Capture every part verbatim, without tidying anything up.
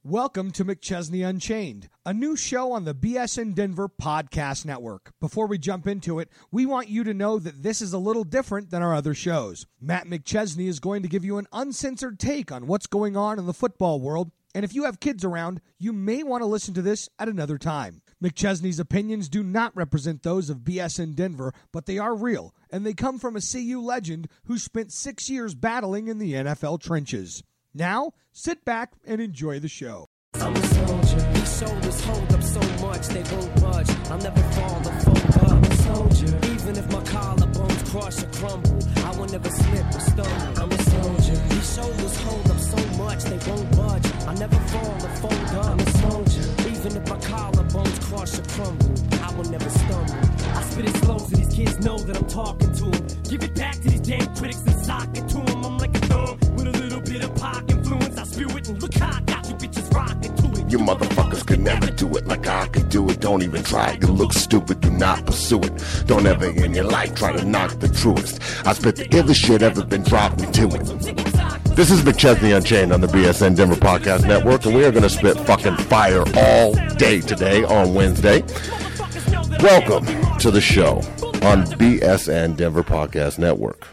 Welcome to McChesney Unchained, a new show on the B S N Denver Podcast Network. Before we jump into it, we want you to know that this is a little different than our other shows. Matt McChesney is going to give you an uncensored take on what's going on in the football world, and if you have kids around, you may want to listen to this at another time. McChesney's opinions do not represent those of B S N Denver, but they are real, and they come from a C U legend who spent six years battling in the N F L trenches. Now, sit back and enjoy the show. I'm a soldier. These shoulders hold up so much they won't budge. I'll never fall or fold up. I'm a soldier. Even if my collarbones crush or crumble, I will never slip or stumble. I'm a soldier. These shoulders hold up so much they won't budge. I'll never fall or fold up. I'm a soldier. Even if my collarbones crush or crumble, I will never stumble. I spit it slow so these kids know that I'm talking to them. Give it back to these damn critics and sock it to them. I'm like a thumb with a little bit of pop influence. I spew it and look how I got you bitches rocking to it. You motherfuckers could never do it like I could do it. Don't even try. You look stupid. Do not pursue it. Don't ever in your life try to knock the truest. I spit the illest shit ever been dropped into it. This is McChesney Unchained on the B S N Denver Podcast Network, and we are going to spit fucking fire all day today on Wednesday. Welcome to the show on B S N Denver Podcast Network.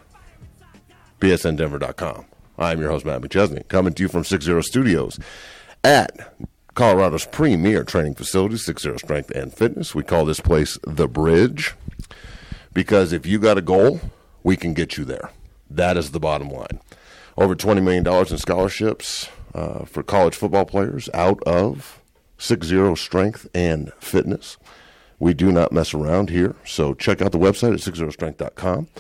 B S N Denver dot com. I'm your host, Matt McChesney, coming to you from six zero Studios at Colorado's premier training facility, six zero Strength and Fitness. We call this place The Bridge because if you got a goal, we can get you there. That is the bottom line. Over twenty million dollars in scholarships uh, for college football players out of six zero Strength and Fitness. We do not mess around here, so check out the website at six zero strength dot com.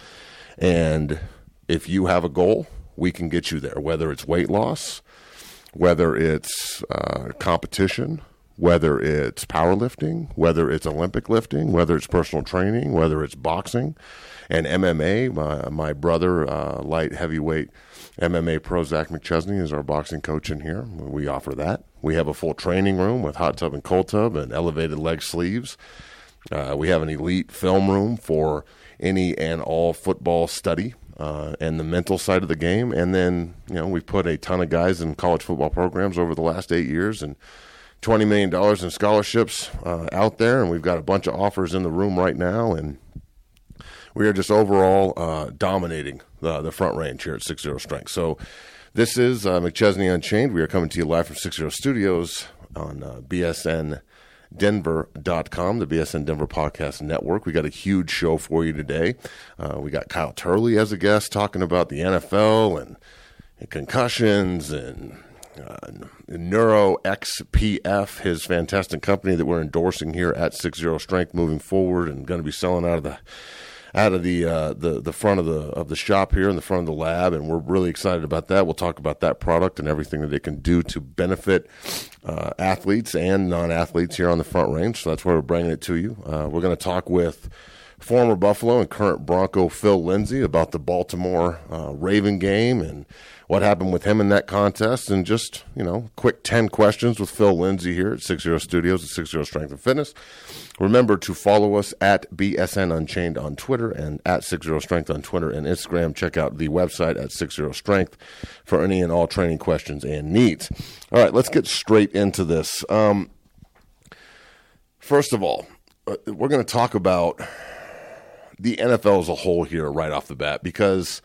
And if you have a goal, we can get you there, whether it's weight loss, whether it's uh, competition, whether it's powerlifting, whether it's Olympic lifting, whether it's personal training, whether it's boxing and M M A. My, my brother, uh, light heavyweight M M A pro Zach McChesney, is our boxing coach in here. We offer that. We have a full training room with hot tub and cold tub and elevated leg sleeves. Uh, we have an elite film room for any and all football study. Uh, and the mental side of the game. And then, you know, we've put a ton of guys in college football programs over the last eight years and twenty million dollars in scholarships uh, out there. And we've got a bunch of offers in the room right now. And we are just overall uh, dominating the, the front range here at six zero Strength. So this is uh, McChesney Unchained. We are coming to you live from six zero Studios on uh, B S N Denver dot com, the B S N Denver Podcast Network. We got a huge show for you today. Uh, we got Kyle Turley as a guest talking about the N F L and, and concussions and uh, Neuro X P F, his fantastic company that we're endorsing here at six zero Strength moving forward and going to be selling out of the out of the uh, the the front of the of the shop here in the front of the lab, and we're really excited about that. We'll talk about that product and everything that it can do to benefit uh, athletes and non-athletes here on the front range. So that's why we're bringing it to you. Uh, we're going to talk with former Buffalo and current Bronco Phil Lindsay about the Baltimore uh, Raven game and what happened with him in that contest, and just, you know, quick ten questions with Phil Lindsay here at six zero Studios at six zero Strength and Fitness. Remember to follow us at B S N Unchained on Twitter and at six zero Strength on Twitter and Instagram. Check out the website at six zero Strength for any and all training questions and needs. All right, let's get straight into this. Um, first of all, we're going to talk about the N F L as a whole here right off the bat because,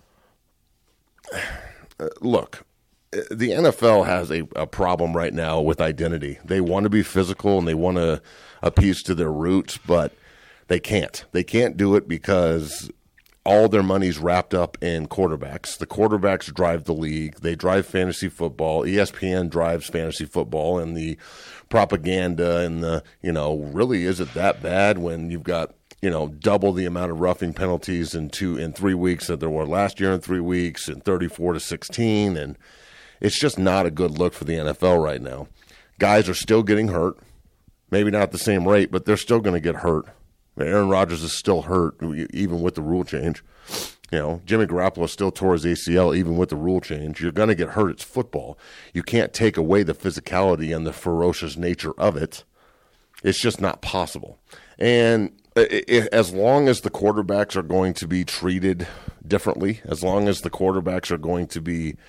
uh, look, the N F L has a, a problem right now with identity. They want to be physical and they want to appease to their roots, but they can't. They can't do it because all their money's wrapped up in quarterbacks. The quarterbacks drive the league. They drive fantasy football. E S P N drives fantasy football, and the propaganda and the, you know, really is it that bad when you've got, you know, double the amount of roughing penalties in two in three weeks that there were last year in three weeks and thirty-four to sixteen, and it's just not a good look for the N F L right now. Guys are still getting hurt, maybe not at the same rate, but they're still going to get hurt. Aaron Rodgers is still hurt even with the rule change. You know, Jimmy Garoppolo still tore his A C L even with the rule change. You're going to get hurt. It's football. You can't take away the physicality and the ferocious nature of it. It's just not possible. And as long as the quarterbacks are going to be treated differently, as long as the quarterbacks are going to be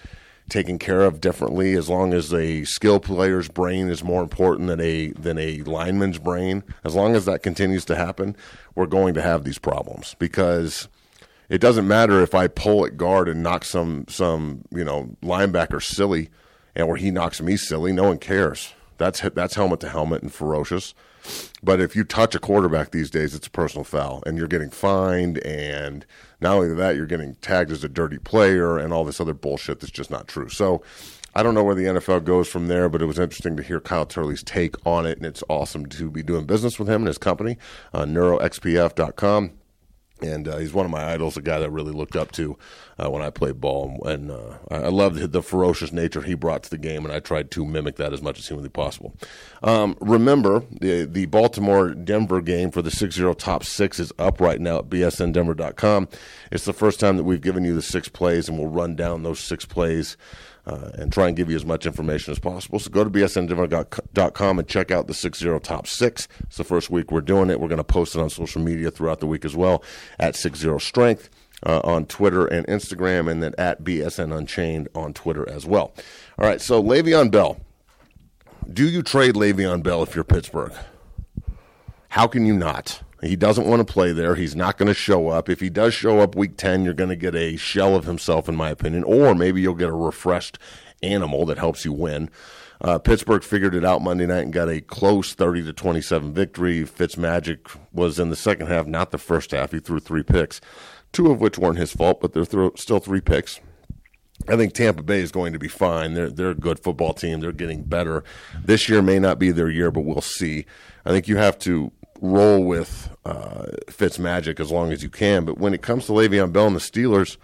taken care of differently, as long as a skill player's brain is more important than a than a lineman's brain, as long as that continues to happen, we're going to have these problems. Because it doesn't matter if I pull at guard and knock some some you know linebacker silly, and or he knocks me silly. No one cares. That's that's helmet to helmet and ferocious. But if you touch a quarterback these days, it's a personal foul, and you're getting fined, and not only that, you're getting tagged as a dirty player and all this other bullshit that's just not true. So I don't know where the N F L goes from there, but it was interesting to hear Kyle Turley's take on it, and it's awesome to be doing business with him and his company, uh, neuro x p f dot com. And uh, he's one of my idols, a guy that I really looked up to uh, when I played ball. And uh, I loved the ferocious nature he brought to the game, and I tried to mimic that as much as humanly possible. Um, remember, the the Baltimore-Denver game for the six zero top six is up right now at b s n denver dot com. It's the first time that we've given you the six plays, and we'll run down those six plays Uh, and try and give you as much information as possible. So go to b s n denver dot com and check out the six zero top six. It's the first week we're doing it. We're going to post it on social media throughout the week as well, at six zero strength uh, on Twitter and Instagram, and then at B S N Unchained on Twitter as well. All right, so Le'Veon Bell. Do you trade Le'Veon Bell if you're Pittsburgh? How can you not? He doesn't want to play there. He's not going to show up. If he does show up week ten, you're going to get a shell of himself, in my opinion, or maybe you'll get a refreshed animal that helps you win. Uh, Pittsburgh figured it out Monday night and got a close thirty to twenty-seven victory. Fitzmagic was in the second half, not the first half. He threw three picks, two of which weren't his fault, but they're th- still three picks. I think Tampa Bay is going to be fine. They're they're a good football team. They're getting better. This year may not be their year, but we'll see. I think you have to roll with uh, Fitzmagic as long as you can. But when it comes to Le'Veon Bell and the Steelers,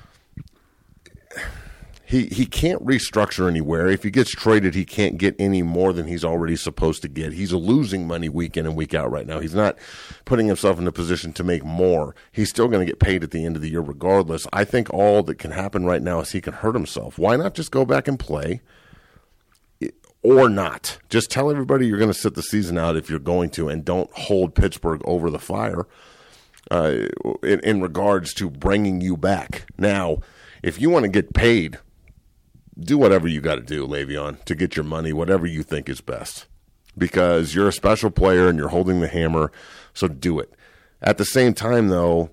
he he can't restructure anywhere. If he gets traded, he can't get any more than he's already supposed to get. He's losing money week in and week out right now. He's not putting himself in a position to make more. He's still going to get paid at the end of the year regardless. I think all that can happen right now is he can hurt himself. Why not just go back and play? Or not. Just tell everybody you're going to sit the season out if you're going to, and don't hold Pittsburgh over the fire uh, in, in regards to bringing you back. Now, if you want to get paid, do whatever you got to do, Le'Veon, to get your money, whatever you think is best. Because you're a special player and you're holding the hammer, so do it. At the same time, though,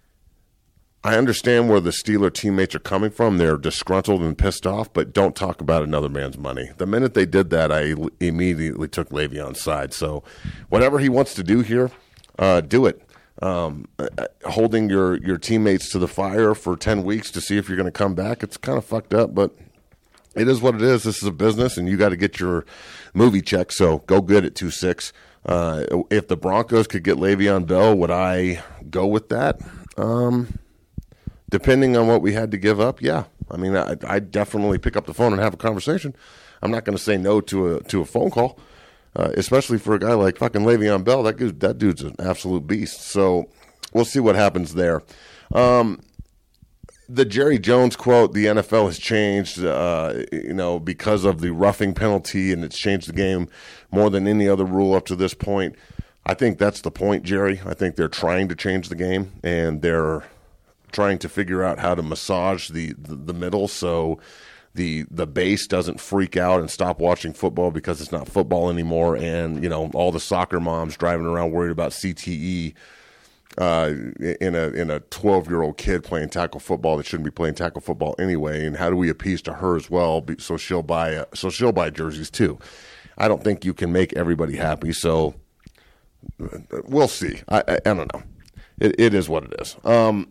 I understand where the Steeler teammates are coming from. They're disgruntled and pissed off, but don't talk about another man's money. The minute they did that, I immediately took Le'Veon's side. So whatever he wants to do here, uh, do it. Um, holding your, your teammates to the fire for ten weeks to see if you're going to come back, it's kind of fucked up, but it is what it is. This is a business, and you got to get your movie check, so go good at two six. Uh, if the Broncos could get Le'Veon Bell, would I go with that? Um Depending on what we had to give up, yeah. I mean, I I'd definitely pick up the phone and have a conversation. I'm not going to say no to a to a phone call, uh, especially for a guy like fucking Le'Veon Bell. That dude, that dude's an absolute beast. So we'll see what happens there. Um, the Jerry Jones quote, the N F L has changed, uh, you know, because of the roughing penalty, and it's changed the game more than any other rule up to this point. I think that's the point, Jerry. I think they're trying to change the game, and they're trying to figure out how to massage the, the, the middle so the the base doesn't freak out and stop watching football because it's not football anymore. And, you know, all the soccer moms driving around worried about C T E uh, in a in a twelve-year-old kid playing tackle football that shouldn't be playing tackle football anyway. And how do we appease to her as well so she'll buy a, so she'll buy jerseys too? I don't think you can make everybody happy, so we'll see. I, I, I don't know. It, it is what it is. Um,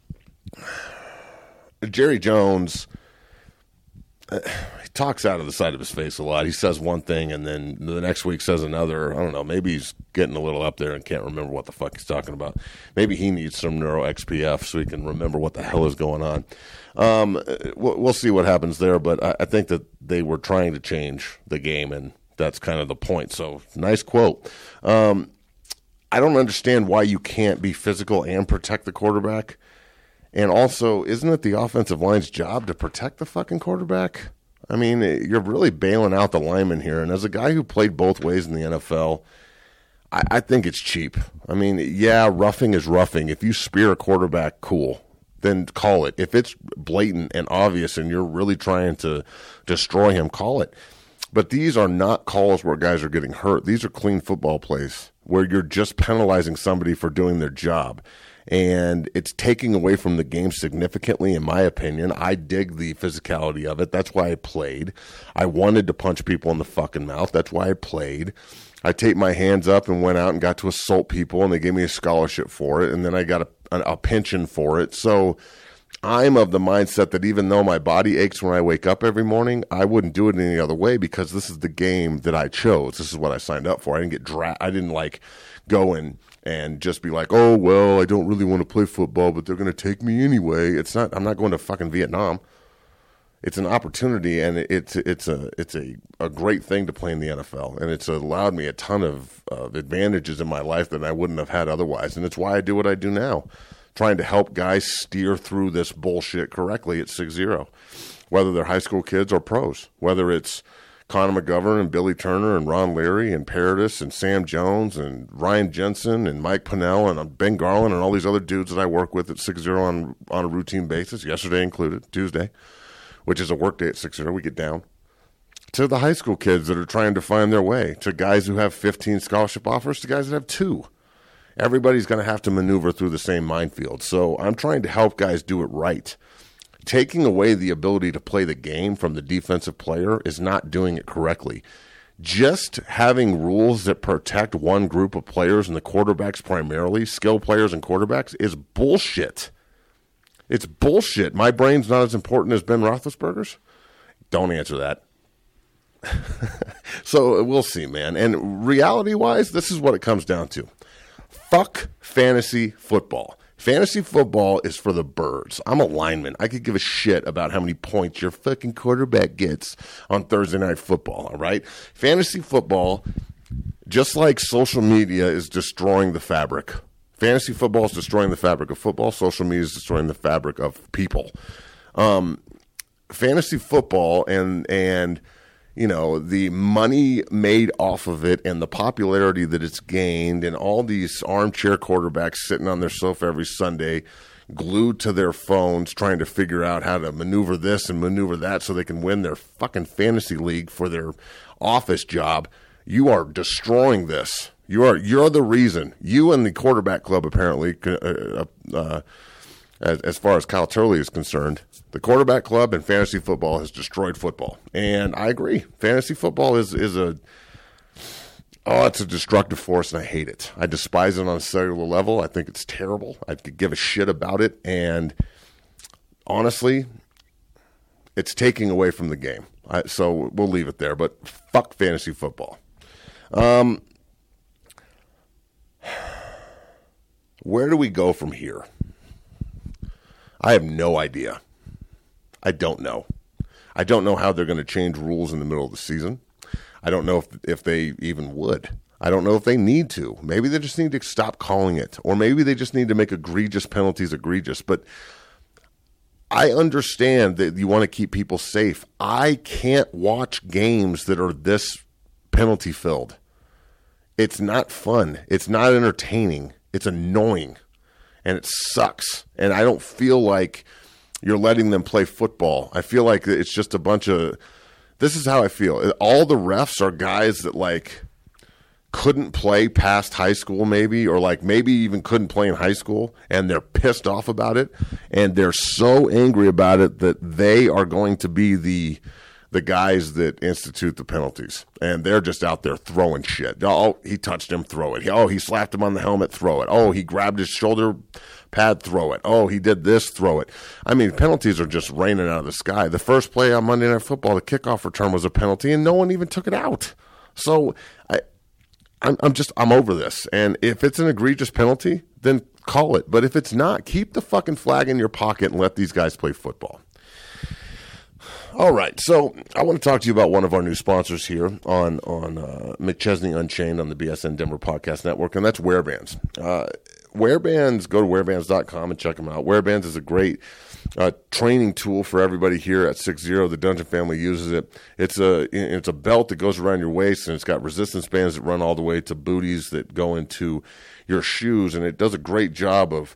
Jerry Jones, uh, he talks out of the side of his face a lot. He says one thing and then the next week says another. I don't know. Maybe he's getting a little up there and can't remember what the fuck he's talking about. Maybe he needs some neuro X P F so he can remember what the hell is going on. Um, we'll, we'll see what happens there, but I, I think that they were trying to change the game, and that's kind of the point. So nice quote. Um, I don't understand why you can't be physical and protect the quarterback. And also, isn't it the offensive line's job to protect the fucking quarterback? I mean, you're really bailing out the lineman here. And as a guy who played both ways in the N F L, I, I think it's cheap. I mean, yeah, roughing is roughing. If you spear a quarterback, cool. then call it. If it's blatant and obvious and you're really trying to destroy him, call it. But these are not calls where guys are getting hurt. These are clean football plays where you're just penalizing somebody for doing their job. And it's taking away from the game significantly, in my opinion. I dig the physicality of it. That's why I played. I wanted to punch people in the fucking mouth. That's why I played. I taped my hands up and went out and got to assault people, and they gave me a scholarship for it, and then I got a, a, a pension for it. So I'm of the mindset that even though my body aches when I wake up every morning, I wouldn't do it any other way because this is the game that I chose. This is what I signed up for. I didn't get dra- I didn't like go and and just be like, oh, well, I don't really want to play football, but they're going to take me anyway. It's not. I'm not going to fucking Vietnam. It's an opportunity, and it's it's a it's a, a great thing to play in the N F L, and it's allowed me a ton of, of advantages in my life that I wouldn't have had otherwise, and it's why I do what I do now, trying to help guys steer through this bullshit correctly at six zero, whether they're high school kids or pros, whether it's Connor McGovern and Billy Turner and Ron Leary and Paradis and Sam Jones and Ryan Jensen and Mike Pinnell and Ben Garland and all these other dudes that I work with at six zero on, on a routine basis, yesterday included, Tuesday, which is a work day at six zero, we get down, to the high school kids that are trying to find their way, to guys who have fifteen scholarship offers, to guys that have two. Everybody's going to have to maneuver through the same minefield. So I'm trying to help guys do it right. Taking away the ability to play the game from the defensive player is not doing it correctly. Just having rules that protect one group of players, and the quarterbacks primarily, skill players and quarterbacks, is bullshit. It's bullshit. My brain's not as important as Ben Roethlisberger's? Don't answer that. So we'll see, man. And reality-wise, this is what it comes down to. Fuck fantasy football. Fantasy football is for the birds. I'm a lineman. I could give a shit about how many points your fucking quarterback gets on Thursday Night Football, all right? Fantasy football, just like social media is destroying the fabric. Fantasy football is destroying the fabric of football. Social media is destroying the fabric of people. Um, fantasy football and and you know the money made off of it and the popularity that it's gained, and all these armchair quarterbacks sitting on their sofa every Sunday, glued to their phones, trying to figure out how to maneuver this and maneuver that so they can win their fucking fantasy league for their office job. You are destroying this. You are you're the reason. You and the quarterback club, apparently, uh, uh, as, as far as Kyle Turley is concerned, the quarterback club and fantasy football has destroyed football. And I agree. Fantasy football is is a oh, it's a destructive force, and I hate it. I despise it on a cellular level. I think it's terrible. I could give a shit about it, and honestly, it's taking away from the game. I, so we'll leave it there. But fuck fantasy football. Um. Where do we go from here? I have no idea. I don't know. I don't know how they're going to change rules in the middle of the season. I don't know if if they even would. I don't know if they need to. Maybe they just need to stop calling it. Or maybe they just need to make egregious penalties egregious. But I understand that you want to keep people safe. I can't watch games that are this penalty-filled. It's not fun. It's not entertaining. It's annoying, and it sucks, and I don't feel like you're letting them play football. I feel like it's just a bunch of – this is how I feel. All the refs are guys that, like, couldn't play past high school maybe, or, like, maybe even couldn't play in high school, and they're pissed off about it, and they're so angry about it that they are going to be the – the guys that institute the penalties, and they're just out there throwing shit. Oh, he touched him, throw it. Oh, he slapped him on the helmet, throw it. Oh, he grabbed his shoulder pad, throw it. Oh, he did this, throw it. I mean, penalties are just raining out of the sky. The first play on Monday Night Football, the kickoff return was a penalty, and no one even took it out. So I, I'm, I'm just, I'm over this. And if it's an egregious penalty, then call it. But if it's not, keep the fucking flag in your pocket and let these guys play football. All right, so I want to talk to you about one of our new sponsors here on on uh, McChesney Unchained on the B S N Denver Podcast Network, and that's Wearbands. Uh, Wearbands, go to wearbands dot com and check them out. Wearbands is a great uh, training tool for everybody here at six zero. The Dungeon family uses it. It's a it's a belt that goes around your waist, and it's got resistance bands that run all the way to booties that go into your shoes, and it does a great job of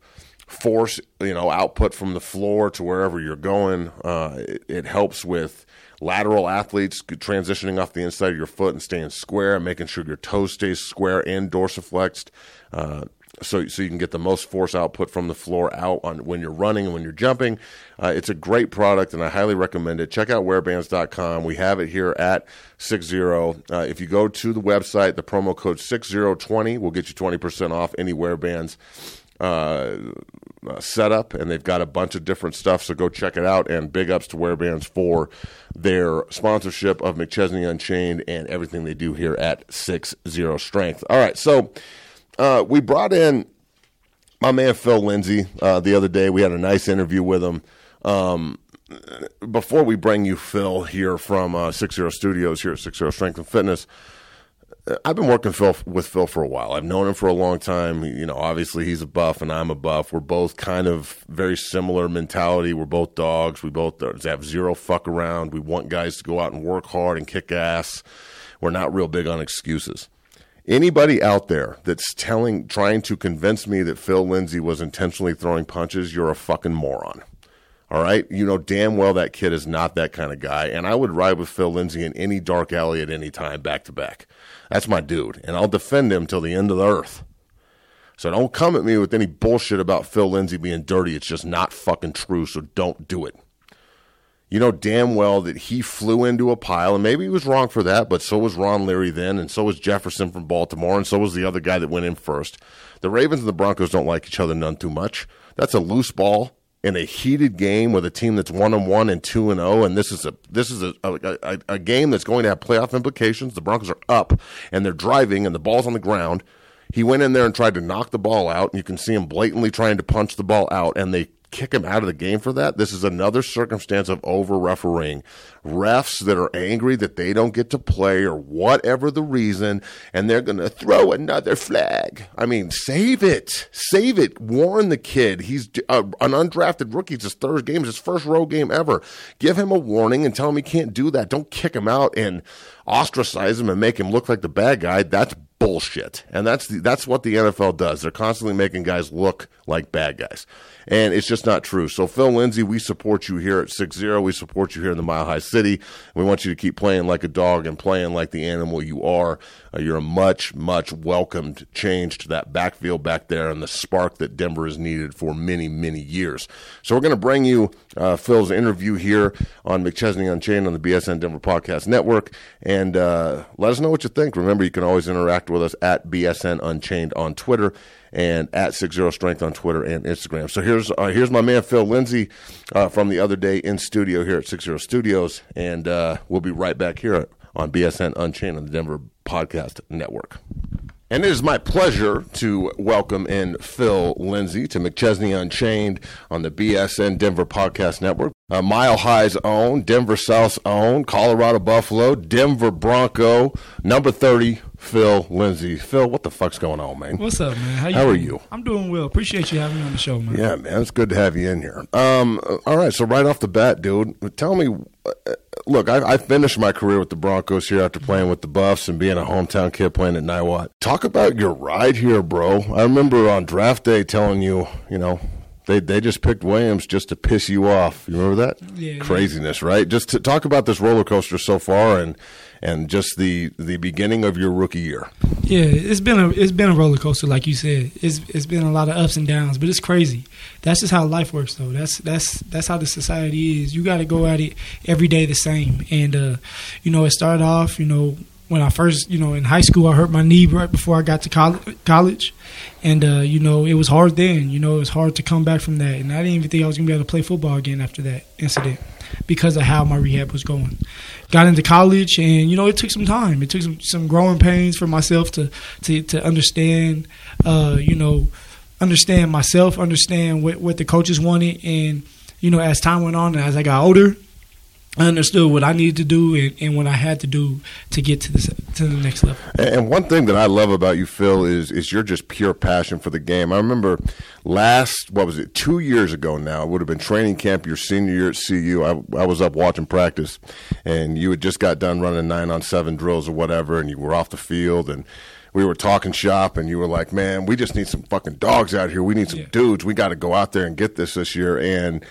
force, you know, output from the floor to wherever you're going. Uh, it, it helps with lateral athletes transitioning off the inside of your foot and staying square and making sure your toes stay square and dorsiflexed. Uh, So, so you can get the most force output from the floor out on when you're running and when you're jumping. Uh, it's a great product, and I highly recommend it. Check out wear bands dot com. We have it here at six zero. Uh, if you go to the website, the promo code six zero twenty will get you twenty percent off any WearBands uh, uh, setup, and they've got a bunch of different stuff, so go check it out. And big ups to WearBands for their sponsorship of McChesney Unchained and everything they do here at six zero Strength. All right, so Uh, we brought in my man Phil Lindsay uh, the other day. We had a nice interview with him. Um, before we bring you Phil here from uh, six zero Studios here at six zero Strength and Fitness, I've been working Phil, with Phil for a while. I've known him for a long time. You know, obviously he's a buff and I'm a buff. We're both kind of very similar mentality. We're both dogs. We both have zero fuck around. We want guys to go out and work hard and kick ass. We're not real big on excuses. Anybody out there that's telling, trying to convince me that Phil Lindsay was intentionally throwing punches, you're a fucking moron. All right? You know damn well that kid is not that kind of guy, and I would ride with Phil Lindsay in any dark alley at any time, back to back. That's my dude, and I'll defend him till the end of the earth. So don't come at me with any bullshit about Phil Lindsay being dirty. It's just not fucking true, so don't do it. You know damn well that he flew into a pile, and maybe he was wrong for that, but so was Ron Leary then, and so was Jefferson from Baltimore, and so was the other guy that went in first. The Ravens and the Broncos don't like each other none too much. That's a loose ball in a heated game with a team that's one and one and two and zero, and this is a this is a, a, a, a game that's going to have playoff implications. The Broncos are up, and they're driving, and the ball's on the ground. He went in there and tried to knock the ball out, and you can see him blatantly trying to punch the ball out, and they kick him out of the game for that. This is another circumstance of over-refereeing. Refs that are angry that they don't get to play or whatever the reason, and they're going to throw another flag. I mean, save it. Save it. Warn the kid. He's uh, an undrafted rookie. It's his third game. It's his first road game ever. Give him a warning and tell him he can't do that. Don't kick him out and ostracize him and make him look like the bad guy. That's bullshit. And that's the, that's what the N F L does. They're constantly making guys look like bad guys. And it's just not true. So, Phil Lindsay, we support you here at six zero. We support you here in the Mile High City. We want you to keep playing like a dog and playing like the animal you are. Uh, you're a much, much welcomed change to that backfield back there and the spark that Denver has needed for many, many years. So we're going to bring you uh, Phil's interview here on McChesney Unchained on the B S N Denver Podcast Network. And uh, let us know what you think. Remember, you can always interact with us at B S N Unchained on Twitter and at six zero Strength on Twitter and Instagram. So here's uh, here's my man Phil Lindsay uh, from the other day in studio here at six zero Studios, and uh, we'll be right back here on B S N Unchained on the Denver Podcast Network. And it is my pleasure to welcome in Phil Lindsay to McChesney Unchained on the B S N Denver Podcast Network. Uh, Mile High's own, Denver South's own, Colorado Buffalo, Denver Bronco, number thirty, Phil Lindsay. Phil, what the fuck's going on, man? What's up, man? How, you How are doing? you? I'm doing well. Appreciate you having me on the show, man. Yeah, man, it's good to have you in here. Um, all right, so right off the bat, dude, tell me, uh, look, I, I finished my career with the Broncos here after playing with the Buffs and being a hometown kid playing at Niwot. Talk about your ride here, bro. I remember on draft day telling you, you know, They they just picked Williams just to piss you off. You remember that? Yeah. Craziness, right? Just to talk about this roller coaster so far and and just the, the beginning of your rookie year. Yeah, it's been a it's been a roller coaster, like you said. It's it's been a lot of ups and downs, but it's crazy. That's just how life works, though. That's that's that's how the society is. You got to go at it every day the same. And uh, you know, it started off, you know, when I first, you know, in high school, I hurt my knee right before I got to college. And, uh, you know, it was hard then. You know, it was hard to come back from that. And I didn't even think I was going to be able to play football again after that incident because of how my rehab was going. Got into college, and, you know, it took some time. It took some, some growing pains for myself to, to, to understand, uh, you know, understand myself, understand what, what the coaches wanted. And, you know, as time went on and as I got older, I understood what I needed to do and, and what I had to do to get to the to the next level. And one thing that I love about you, Phil, is is you're just pure passion for the game. I remember last, what was it, two years ago now, it would have been training camp your senior year at C U. I, I was up watching practice, and you had just got done running nine-on-seven drills or whatever, and you were off the field, and we were talking shop, and you were like, man, we just need some fucking dogs out here. We need some yeah. dudes. We got to go out there and get this this year. And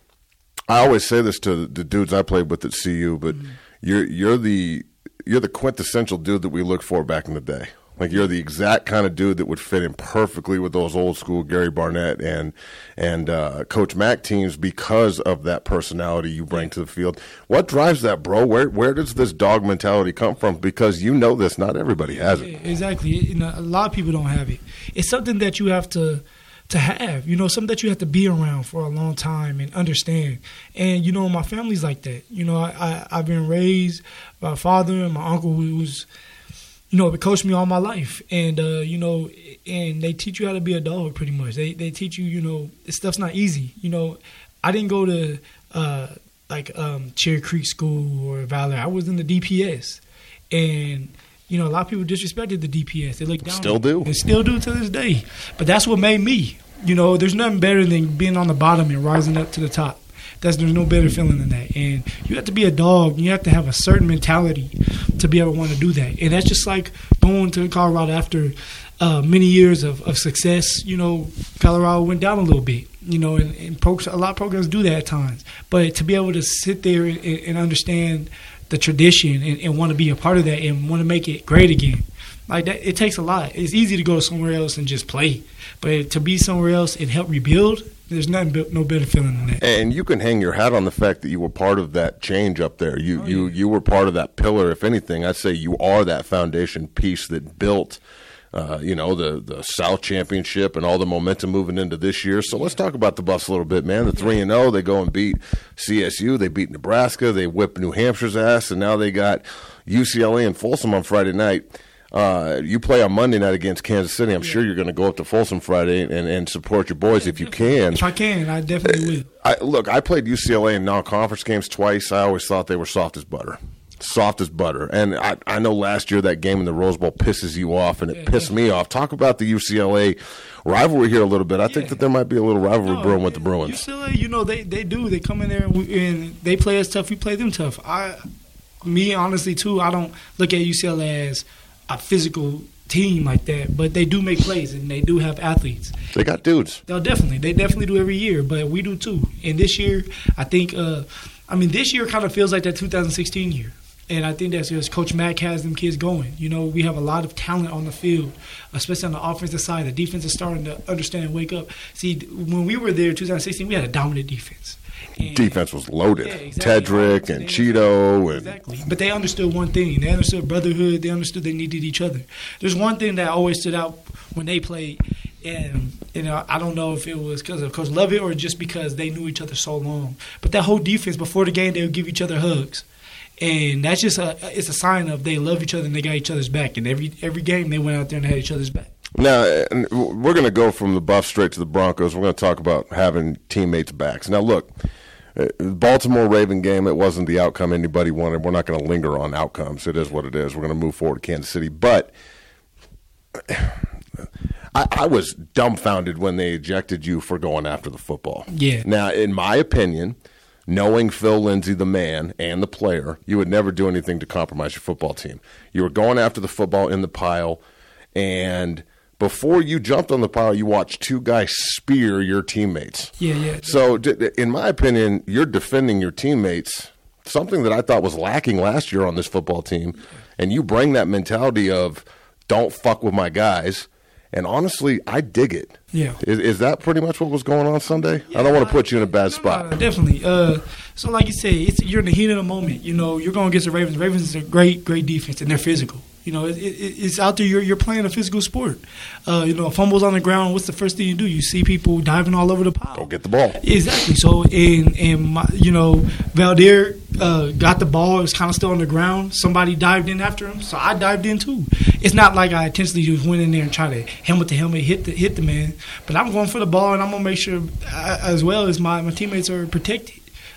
I always say this to the dudes I played with at C U, but mm-hmm. you're you're the you're the quintessential dude that we looked for back in the day. Like, you're the exact kind of dude that would fit in perfectly with those old school Gary Barnett and and uh, Coach Mack teams because of that personality you bring to the field. What drives that, bro? Where where does this dog mentality come from? Because you know this, not everybody has it. Exactly. You know, a lot of people don't have it. It's something that you have to to have, you know, something that you have to be around for a long time and understand. And, you know, my family's like that. You know, I, I, I've been raised by a father and my uncle who's, you know, coached me all my life. And, uh, you know, and they teach you how to be a dog pretty much. They they teach you, you know, this stuff's not easy. You know, I didn't go to, uh, like, um, Cherry Creek School or Valor. I was in the D P S. And, you know, a lot of people disrespected the D P S. They look down. Still do. They still do to this day. But that's what made me. You know, there's nothing better than being on the bottom and rising up to the top. That's, there's no better feeling than that. And you have to be a dog. You have to have a certain mentality to be able to want to do that. And that's just like going to Colorado after uh, many years of, of success. You know, Colorado went down a little bit. You know, and, and pro- a lot of programs do that at times. But to be able to sit there and, and understand the tradition and, and want to be a part of that and want to make it great again, like that, it takes a lot. It's easy to go somewhere else and just play, but to be somewhere else and help rebuild, there's nothing, no better feeling than that. And you can hang your hat on the fact that you were part of that change up there. You oh, you yeah. you were part of that pillar. If anything, I'd say you are that foundation piece that built, uh, you know, the the South Championship and all the momentum moving into this year. So let's talk about the Buffs a little bit, man. The three and zero, they go and beat C S U. They beat Nebraska. They whip New Hampshire's ass, and now they got U C L A and Folsom on Friday night. Uh, you play on Monday night against Kansas City. I'm yeah. sure you're going to go up to Folsom Friday and, and support your boys yeah, if you can. If I can, I definitely will. I, look, I played U C L A in non-conference games twice. I always thought they were soft as butter. Soft as butter. And I, I know last year that game in the Rose Bowl pisses you off, and it yeah, pissed yeah. me off. Talk about the U C L A rivalry here a little bit. I yeah. think that there might be a little rivalry no, brewing with the Bruins. U C L A, you know, they, they do. They come in there and, we, and they play us tough. We play them tough. I, me, honestly, too, I don't look at U C L A as a physical team like that, but they do make plays and they do have athletes. They got dudes. They'll definitely, they definitely do every year, but we do too. And this year, I think, uh, I mean, this year kind of feels like that two thousand sixteen year. And I think that's because Coach Mack has them kids going. You know, we have a lot of talent on the field, especially on the offensive side. The defense is starting to understand and wake up. See, when we were there in two thousand sixteen, we had a dominant defense. And defense was loaded. Yeah, exactly. Tedrick and Cheeto. And exactly. But they understood one thing. They understood brotherhood. They understood they needed each other. There's one thing that always stood out when they played, and you know, I don't know if it was because of Coach Lovett or just because they knew each other so long. But that whole defense, before the game, they would give each other hugs. And that's just a it's a sign of they love each other and they got each other's back. And every every game they went out there and had each other's back. Now, we're going to go from the Buffs straight to the Broncos. We're going to talk about having teammates' backs. Now, look, Baltimore-Raven game, it wasn't the outcome anybody wanted. We're not going to linger on outcomes. It is what it is. We're going to move forward to Kansas City. But I, I was dumbfounded when they ejected you for going after the football. Yeah. Now, in my opinion, knowing Phil Lindsay, the man, and the player, you would never do anything to compromise your football team. You were going after the football in the pile, and – before you jumped on the pile, you watched two guys spear your teammates. Yeah, yeah. So, in my opinion, you're defending your teammates, something that I thought was lacking last year on this football team. And you bring that mentality of don't fuck with my guys. And honestly, I dig it. Yeah. Is, is that pretty much what was going on Sunday? Yeah, I don't want to put you in a bad spot. No, definitely. Uh, so, like you say, it's, you're in the heat of the moment. You know, you're going against the Ravens. The Ravens is a great, great defense, and they're physical. You know, it, it, it's out there. You're you're playing a physical sport. Uh, you know, fumbles on the ground. What's the first thing you do? You see people diving all over the pile. Go get the ball. Exactly. So, and and my, you know, Valdir uh, got the ball. It was kind of still on the ground. Somebody dived in after him, so I dived in too. It's not like I intentionally just went in there and tried to helmet to helmet hit the hit the man, but I'm going for the ball and I'm gonna make sure, I, as well as my my teammates are protected.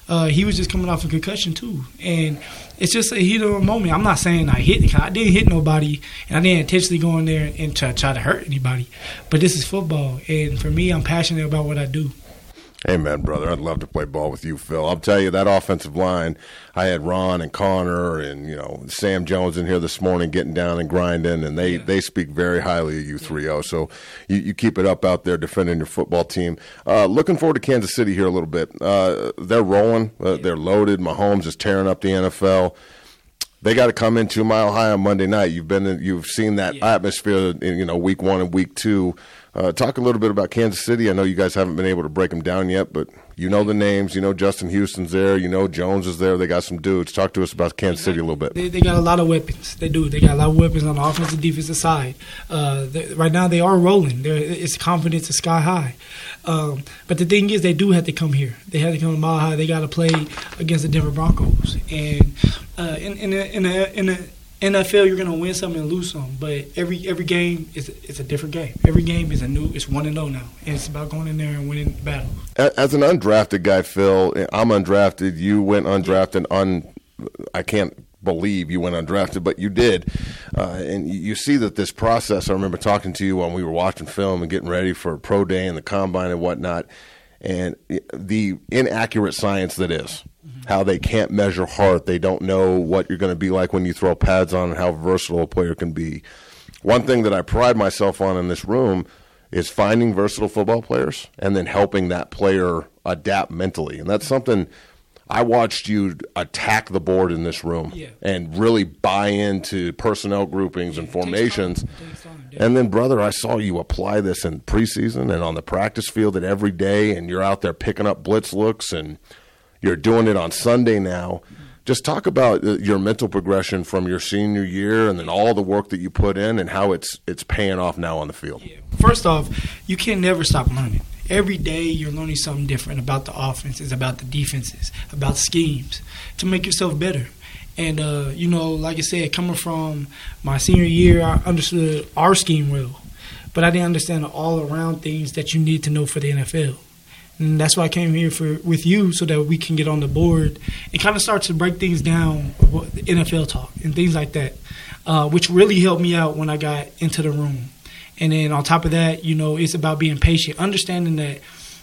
Uh, he was just coming off a concussion too, and it's just a heat of a moment. I'm not saying I hit. I didn't hit nobody, and I didn't intentionally go in there and try, try to hurt anybody. But this is football, and for me, I'm passionate about what I do. Amen, brother. I'd love to play ball with you, Phil. I'll tell you, that offensive line, I had Ron and Connor and, you know, Sam Jones in here this morning getting down and grinding, and they, yeah. they speak very highly of you three oh. So you, you keep it up out there defending your football team. Uh, looking forward to Kansas City here a little bit. Uh, they're rolling. Uh, they're loaded. Mahomes is tearing up the N F L. They got to come in two mile high on Monday night. You've been, in, you've seen that yeah. atmosphere in, you know, week one and week two. Uh, talk a little bit about Kansas City. I know you guys haven't been able to break them down yet, but you know the names. You know Justin Houston's there. You know Jones is there. They got some dudes. Talk to us about Kansas City a little bit. They, they got a lot of weapons. They do. They got a lot of weapons on the offensive, defensive side. Uh, they, right now they are rolling. They're, it's confidence is sky high. Um, but the thing is, they do have to come here. They have to come to Mile High. They got to play against the Denver Broncos. And uh, in in a, in a, in a N F L, you're gonna win some and lose some, but every every game is is a different game. Every game is a new. It's one and zero now, and it's about going in there and winning the battle. As an undrafted guy, Phil, I'm undrafted. You went undrafted. Un, I can't believe you went undrafted, but you did. Uh, and you see that this process. I remember talking to you when we were watching film and getting ready for pro day and the combine and whatnot, and the inaccurate science that is. How they can't measure heart. They don't know what you're going to be like when you throw pads on and how versatile a player can be. One thing that I pride myself on in this room is finding versatile football players and then helping that player adapt mentally. And that's something I watched you attack the board in this room yeah. and really buy into personnel groupings yeah, and formations. Takes time. Takes time, and then, brother, I saw you apply this in preseason and on the practice field and every day, and you're out there picking up blitz looks and – you're doing it on Sunday now. Just talk about your mental progression from your senior year and then all the work that you put in and how it's it's paying off now on the field. Yeah. First off, you can never stop learning. Every day you're learning something different about the offenses, about the defenses, about schemes to make yourself better. And, uh, you know, like I said, coming from my senior year, I understood our scheme well. But I didn't understand the all-around things that you need to know for the N F L. And that's why I came here for with you so that we can get on the board and kind of start to break things down, N F L talk and things like that, uh, which really helped me out when I got into the room. And then on top of that, you know, it's about being patient, understanding that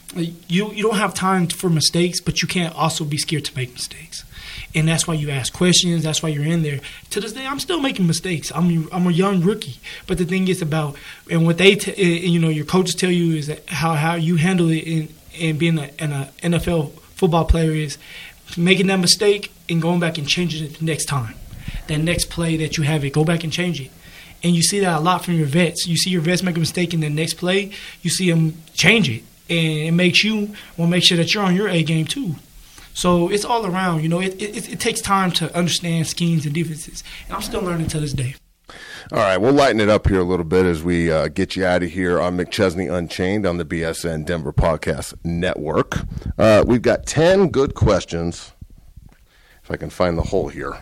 you you don't have time for mistakes, but you can't also be scared to make mistakes. And that's why you ask questions. That's why you're in there. To this day, I'm still making mistakes. I'm I'm a young rookie. But the thing is about, and what they, t- you know, your coaches tell you is that how, how you handle it in, in being a, an a N F L football player is making that mistake and going back and changing it the next time. That next play that you have it, go back and change it. And you see that a lot from your vets. You see your vets make a mistake in the next play, you see them change it. And it makes you want to make sure that you're on your A game too. So it's all around. You know, it, it, it takes time to understand schemes and defenses. And I'm still learning to this day. All right, we'll lighten it up here a little bit as we uh, get you out of here on McChesney Unchained on the B S N Denver Podcast Network. Uh, we've got ten good questions. If I can find the hole here.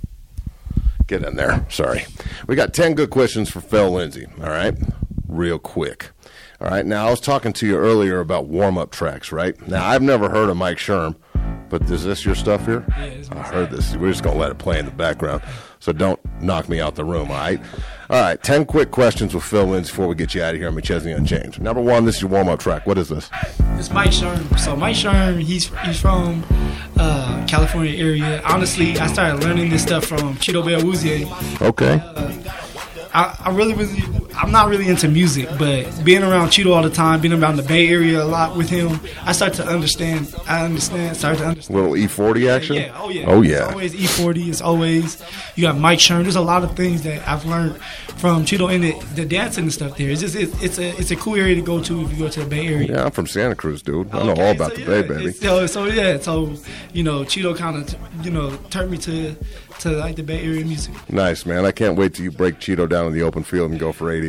Get in there. Sorry. We got ten good questions for Phil Lindsay. All right, real quick. All right, now I was talking to you earlier about warm-up tracks, right? Now, I've never heard of Mike Sherm, but is this your stuff here? Yeah, it's I heard this. We're just going to let it play in the background, so don't knock me out the room, all right? All right, ten quick questions with Phil Lindsay before we get you out of here on McChesney Unchained. Number one, this is your warm-up track. What is this? It's Mike Sherm. So Mike Sherm, he's he's from uh, California area. Honestly, I started learning this stuff from Cheeto Bell Woozier. Okay. Uh, I, I really was. I'm not really into music, but being around Cheeto all the time, being around the Bay Area a lot with him, I start to understand. I understand. Start to understand. Little E forty action. Yeah. Oh yeah. Oh yeah. It's always E forty. It's always you got Mike Sherm. There's a lot of things that I've learned from Cheeto and the, the dancing and stuff there. It's just it, it's a it's a cool area to go to if you go to the Bay Area. Yeah, I'm from Santa Cruz, dude. I know okay, all about so the yeah, Bay, baby. So so yeah. So you know, Cheeto kind of you know turned me to. to like the Bay Area music. Nice, man. I can't wait till you break Cheeto down in the open field and go for eighty.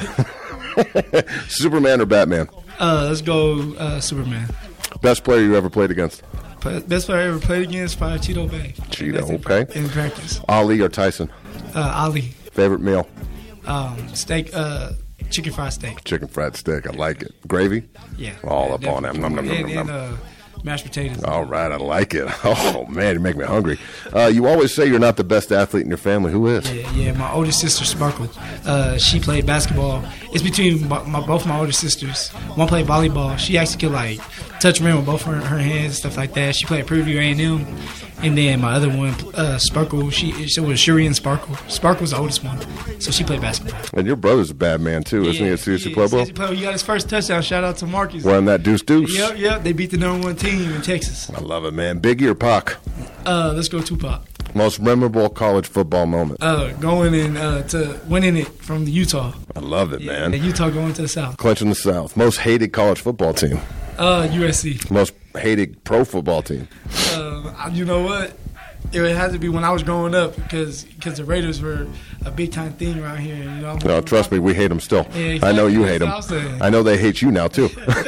Superman or Batman? Uh, let's go uh, Superman. Best player you ever played against? Best player I ever played against, probably Cheeto Bay. Cheeto, okay. In practice. Ali or Tyson? Uh, Ali. Favorite meal? Um, steak, uh, chicken fried steak. Chicken fried steak. I like it. Gravy? Yeah. All yeah, up on that. Nom, nom, nom, and, nom, and nom. uh, mashed potatoes. All right, I like it. Oh, man, you make me hungry. Uh, you always say you're not the best athlete in your family. Who is? Yeah, yeah. My older sister, Sparkle, uh, she played basketball. It's between my, my, both my older sisters. One played volleyball. She actually could, like, touch rim with both her, her hands and stuff like that. She played Preview A and M. And then my other one, uh, Sparkle, she it was Shuri and Sparkle. Sparkle was the oldest one, so she played basketball. And your brother's a bad man, too, isn't he, at C S C Pueblo? Pueblo. He got his first touchdown. Shout out to Marcus. Wearing that deuce deuce. Yep, yep. They beat the number one team in Texas. I love it, man. Biggie or Pac? Uh, let's go Tupac. Most memorable college football moment? Uh, going in uh, to winning it from the Utah. I love it, yeah, man. And Utah going to the South. Clinching the South. Most hated college football team? Uh, U S C. Most hated pro football team? Uh, you know what? It had to be when I was growing up because because the Raiders were a big time thing around here. You know, no, trust me, we hate them still. Yeah, exactly. I know you hate them. I know they hate you now too.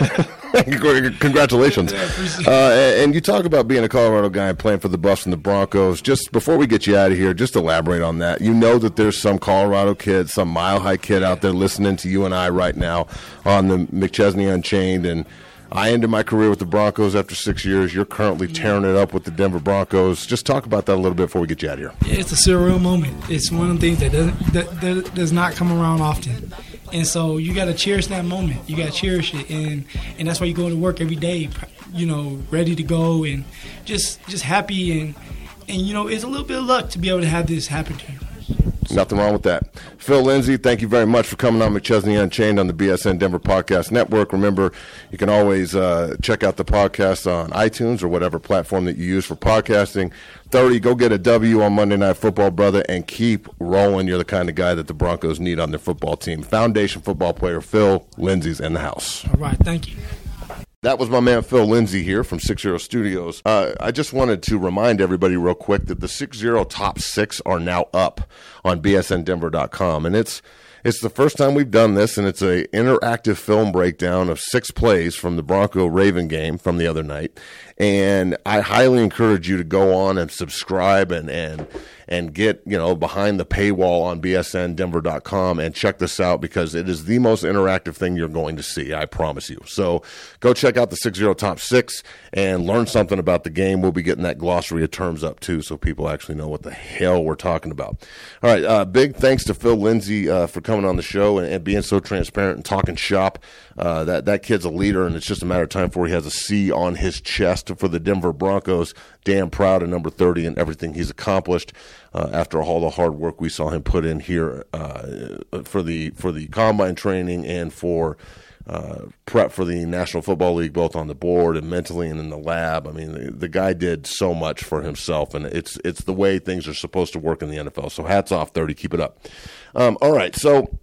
Congratulations. Yeah, uh, and you talk about being a Colorado guy and playing for the Buffs and the Broncos. Just before we get you out of here, just elaborate on that. You know that there's some Colorado kid, some Mile High kid out there listening to you and I right now on the McChesney Unchained, and I ended my career with the Broncos after six years. You're currently tearing it up with the Denver Broncos. Just talk about that a little bit before we get you out of here. Yeah, it's a surreal moment. It's one of the things that doesn't that, that does not come around often. And so you got to cherish that moment. You got to cherish it, and and that's why you go to work every day, you know, ready to go and just just happy and and you know, it's a little bit of luck to be able to have this happen to you. Nothing wrong with that. Phil Lindsay, thank you very much for coming on McChesney Unchained on the B S N Denver Podcast Network. Remember, you can always uh, check out the podcast on iTunes or whatever platform that you use for podcasting. thirty, go get a W on Monday Night Football, brother, and keep rolling. You're the kind of guy that the Broncos need on their football team. Foundation football player Phil Lindsay's in the house. All right, thank you. That was my man Phil Lindsay here from Six Zero Studios. Uh, I just wanted to remind everybody real quick that the Six Zero Top Six are now up on B S N Denver dot com, and it's it's the first time we've done this, and it's an interactive film breakdown of six plays from the Bronco-Raven game from the other night. And I highly encourage you to go on and subscribe and and and get, you know, behind the paywall on B S N Denver dot com and check this out because it is the most interactive thing you're going to see, I promise you. So go check out the Six Zero Top Six and learn something about the game. We'll be getting that glossary of terms up too so people actually know what the hell we're talking about. All right, uh, big thanks to Phil Lindsay uh, for coming on the show and, and being so transparent and talking shop. Uh, that, that kid's a leader, and it's just a matter of time before he has a C on his chest for the Denver Broncos. Damn proud of number thirty and everything he's accomplished uh, after all the hard work we saw him put in here uh, for the for the combine training and for uh, prep for the National Football League, both on the board and mentally and in the lab. I mean, the, the guy did so much for himself, and it's it's the way things are supposed to work in the N F L. So hats off, thirty. Keep it up. Um, all right, so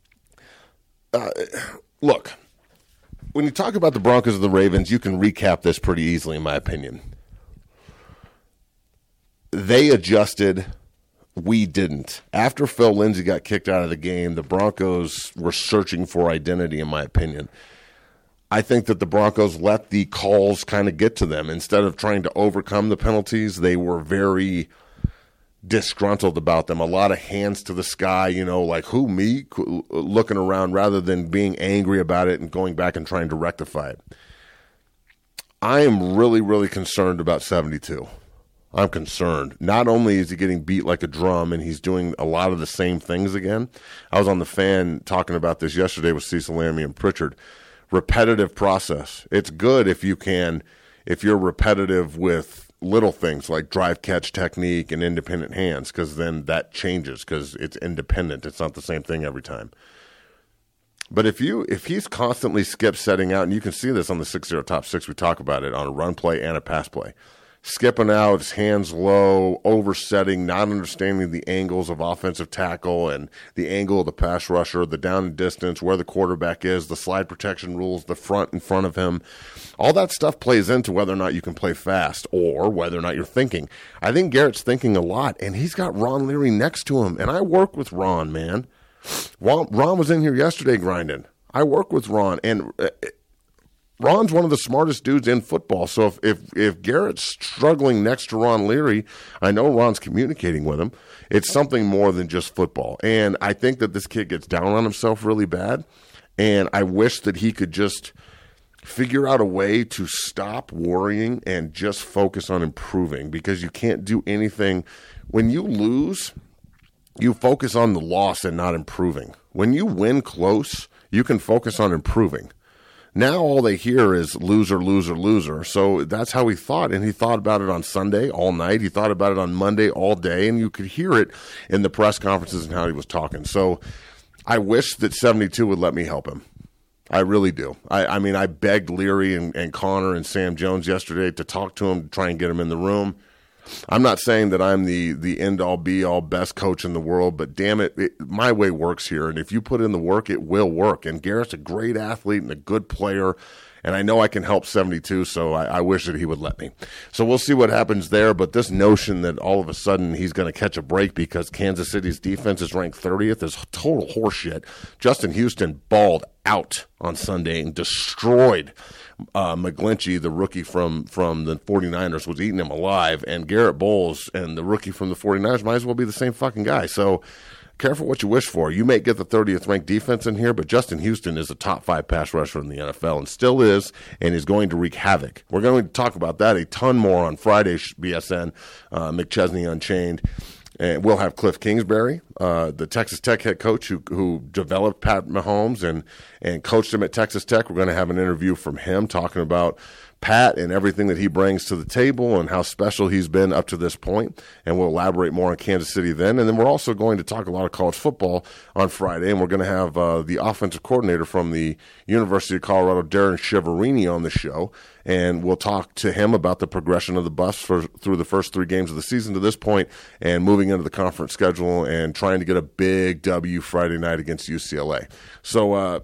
uh, look. When you talk about the Broncos and the Ravens, you can recap this pretty easily, in my opinion. They adjusted. We didn't. After Phil Lindsay got kicked out of the game, the Broncos were searching for identity, in my opinion. I think that the Broncos let the calls kind of get to them. Instead of trying to overcome the penalties, they were very disgruntled about them. A lot of hands to the sky, you know, like, who, me? Looking around rather than being angry about it and going back and trying to rectify it. I am really, really concerned about seventy-two. I'm concerned. Not only is he getting beat like a drum and he's doing a lot of the same things again. I was on the Fan talking about this yesterday with Cecil Lammey and Pritchard. Repetitive process. It's good if you can, if you're repetitive with little things like drive catch technique and independent hands, because then that changes because it's independent. It's not the same thing every time. But if you if he's constantly skip setting out, and you can see this on the six zero Top Six, we talk about it on a run play and a pass play. Skipping out, his hands low, oversetting, not understanding the angles of offensive tackle and the angle of the pass rusher, the down and distance, where the quarterback is, the slide protection rules, the front in front of him. All that stuff plays into whether or not you can play fast or whether or not you're thinking. I think Garrett's thinking a lot, and he's got Ron Leary next to him. And I work with Ron, man. Ron was in here yesterday grinding. I work with Ron, and Ron's one of the smartest dudes in football. So if, if if Garrett's struggling next to Ron Leary, I know Ron's communicating with him. It's something more than just football. And I think that this kid gets down on himself really bad. And I wish that he could just figure out a way to stop worrying and just focus on improving, because you can't do anything. When you lose, you focus on the loss and not improving. When you win close, you can focus on improving. Now all they hear is loser, loser, loser. So that's how he thought, and he thought about it on Sunday all night. He thought about it on Monday all day, and you could hear it in the press conferences and how he was talking. So I wish that seventy-two would let me help him. I really do. I, I mean, I begged Leary and, and Connor and Sam Jones yesterday to talk to him, to try and get him in the room. I'm not saying that I'm the the end-all, be-all, best coach in the world, but damn it, it, my way works here. And if you put in the work, it will work. And Garrett's a great athlete and a good player, and I know I can help seventy-two, so I, I wish that he would let me. So we'll see what happens there, but this notion that all of a sudden he's going to catch a break because Kansas City's defense is ranked thirtieth is total horseshit. Justin Houston balled out on Sunday and destroyed uh, McGlinchey, the rookie from, from the 49ers, was eating him alive, and Garrett Bowles and the rookie from the 49ers might as well be the same fucking guy. So careful what you wish for. You may get the thirtieth ranked defense in here, but Justin Houston is a top five pass rusher in the N F L and still is, and is going to wreak havoc. We're going to talk about that a ton more on Friday, B S N, uh, McChesney Unchained. And we'll have Cliff Kingsbury, uh, the Texas Tech head coach who who developed Pat Mahomes and, and coached him at Texas Tech. We're going to have an interview from him talking about Pat and everything that he brings to the table and how special he's been up to this point. And we'll elaborate more on Kansas City then. And then we're also going to talk a lot of college football on Friday. And we're going to have uh, the offensive coordinator from the University of Colorado, Darren Chiaverini, on the show. And we'll talk to him about the progression of the Buffs for, through the first three games of the season to this point and moving into the conference schedule and trying to get a big W Friday night against U C L A. So, uh,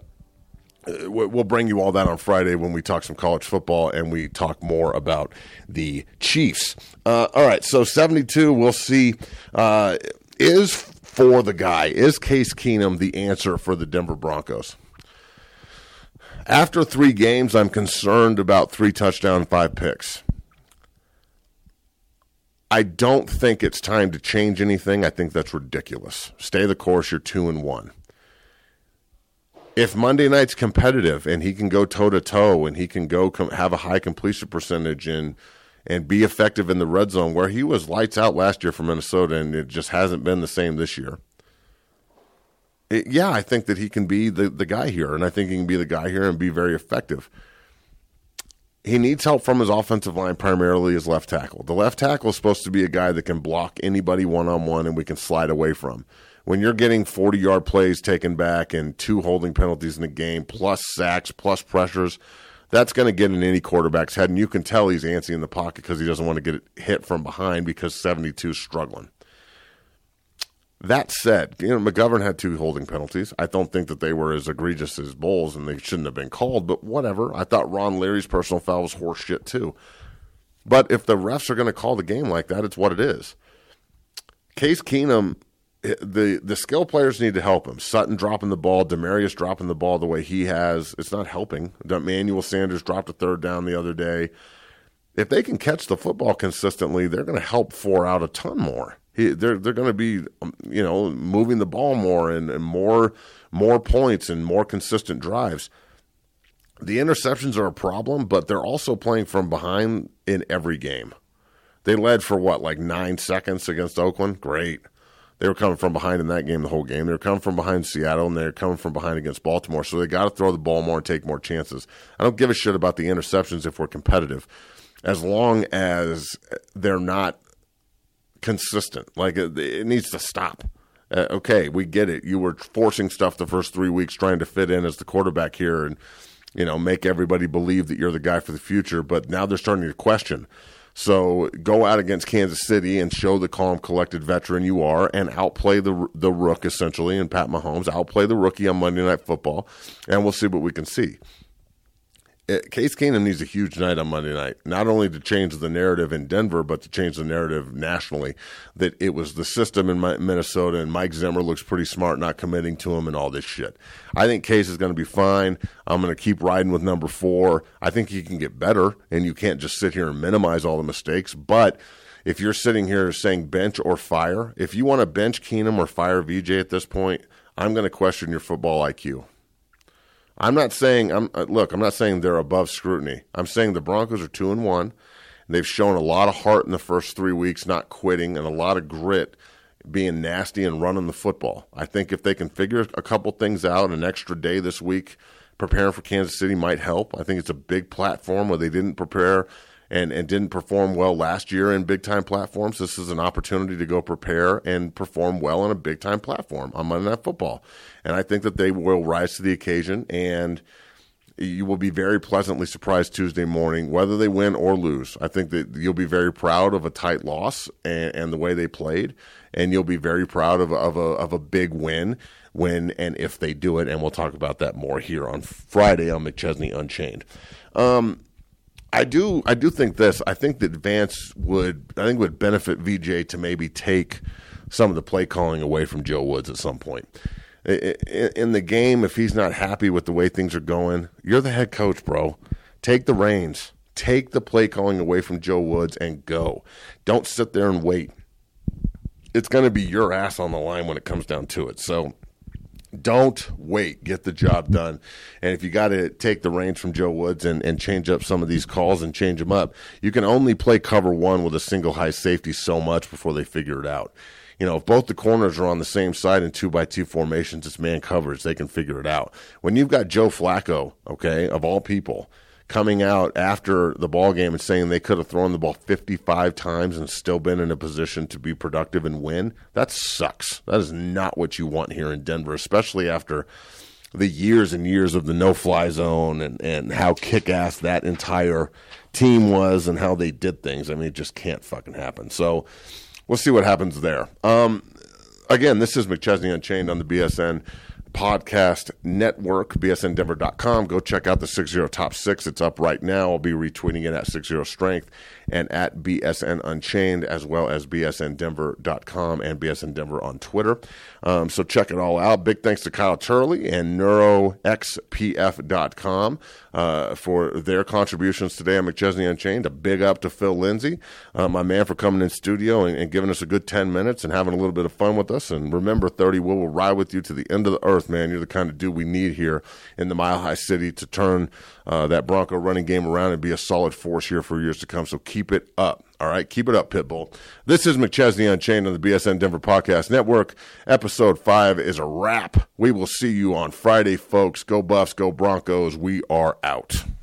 we'll bring you all that on Friday when we talk some college football and we talk more about the Chiefs. Uh, all right, so seventy-two, we'll see. Uh, is for the guy, is Case Keenum the answer for the Denver Broncos? After three games, I'm concerned about three touchdowns, five picks. I don't think it's time to change anything. I think that's ridiculous. Stay the course. You're two and one. If Monday night's competitive and he can go toe-to-toe and he can go com- have a high completion percentage and and be effective in the red zone, where he was lights out last year for Minnesota and it just hasn't been the same this year, it, yeah, I think that he can be the, the guy here, and I think he can be the guy here and be very effective. He needs help from his offensive line, primarily his left tackle. The left tackle is supposed to be a guy that can block anybody one-on-one and we can slide away from. When you're getting forty-yard plays taken back and two holding penalties in the game, plus sacks, plus pressures, that's going to get in any quarterback's head. And you can tell he's antsy in the pocket because he doesn't want to get hit from behind because seventy-two is struggling. That said, you know, McGovern had two holding penalties. I don't think that they were as egregious as Bowles, and they shouldn't have been called, but whatever. I thought Ron Leary's personal foul was horse shit too. But if the refs are going to call the game like that, it's what it is. Case Keenum, the the skill players need to help him. Sutton dropping the ball, Demarius dropping the ball the way he has, it's not helping. Emmanuel Sanders dropped a third down the other day. If they can catch the football consistently, they're going to help four out a ton more. He, they're they're going to be, you know, moving the ball more and, and more more points and more consistent drives. The interceptions are a problem, but they're also playing from behind in every game. They led for what, like nine seconds against Oakland? Great. They were coming from behind in that game the whole game. They were coming from behind Seattle, and they were coming from behind against Baltimore. So they got to throw the ball more and take more chances. I don't give a shit about the interceptions if we're competitive, as long as they're not consistent. Like, it, it needs to stop. Uh, okay, we get it. You were forcing stuff the first three weeks trying to fit in as the quarterback here and, you know, make everybody believe that you're the guy for the future. But now they're starting to question. So go out against Kansas City and show the calm, collected veteran you are and outplay the the rook, essentially, and Pat Mahomes. Outplay the rookie on Monday Night Football, and we'll see what we can see. Case Keenum needs a huge night on Monday night, not only to change the narrative in Denver, but to change the narrative nationally, that it was the system in Minnesota and Mike Zimmer looks pretty smart not committing to him and all this shit. I think Case is going to be fine. I'm going to keep riding with number four. I think he can get better, and you can't just sit here and minimize all the mistakes. But if you're sitting here saying bench or fire, if you want to bench Keenum or fire V J at this point, I'm going to question your football I Q. I'm not saying I'm look. I'm not saying they're above scrutiny. I'm saying the Broncos are two and one. They've shown a lot of heart in the first three weeks, not quitting, and a lot of grit, being nasty and running the football. I think if they can figure a couple things out, an extra day this week preparing for Kansas City might help. I think it's a big platform where they didn't prepare and, and didn't perform well last year in big-time platforms. This is an opportunity to go prepare and perform well on a big-time platform on Monday Night Football. And I think that they will rise to the occasion, and you will be very pleasantly surprised Tuesday morning, whether they win or lose. I think that you'll be very proud of a tight loss and, and the way they played, and you'll be very proud of, of, a, of a big win when and if they do it, and we'll talk about that more here on Friday on McChesney Unchained. Um, I do I do think this. I think that Vance would I think would benefit V J to maybe take some of the play calling away from Joe Woods at some point. In the game, if he's not happy with the way things are going, you're the head coach, bro. Take the reins. Take the play calling away from Joe Woods and go. Don't sit there and wait. It's going to be your ass on the line when it comes down to it. So don't wait. Get the job done. And if you got to take the reins from Joe Woods and, and change up some of these calls and change them up, you can only play cover one with a single high safety so much before they figure it out. You know, if both the corners are on the same side in two by two formations, it's man coverage. They can figure it out. When you've got Joe Flacco, okay, of all people, coming out after the ball game and saying they could have thrown the ball fifty-five times and still been in a position to be productive and win, that sucks. That is not what you want here in Denver, especially after the years and years of the no-fly zone and, and how kick-ass that entire team was and how they did things. I mean, it just can't fucking happen. So we'll see what happens there. Um, again, this is McChesney Unchained on the B S N Podcast Network, B S N Denver dot com. Go check out the six zero Top six. It's up right now. I'll be retweeting it at six zero Strength and at B S N Unchained, as well as B S N Denver dot com and B S N Denver on Twitter. Um, so check it all out. Big thanks to Kyle Turley and Neuro X P F dot com uh, for their contributions today on McChesney Unchained. A big up to Phil Lindsay, uh, my man, for coming in studio and, and giving us a good ten minutes and having a little bit of fun with us. And remember, thirty, we will ride with you to the end of the earth, man. You're the kind of dude we need here in the Mile High City to turn uh, that Bronco running game around and be a solid force here for years to come. So keep it up. All right, keep it up, Pitbull. This is McChesney Unchained on the B S N Denver Podcast Network. Episode five is a wrap. We will see you on Friday, folks. Go Buffs, go Broncos. We are out.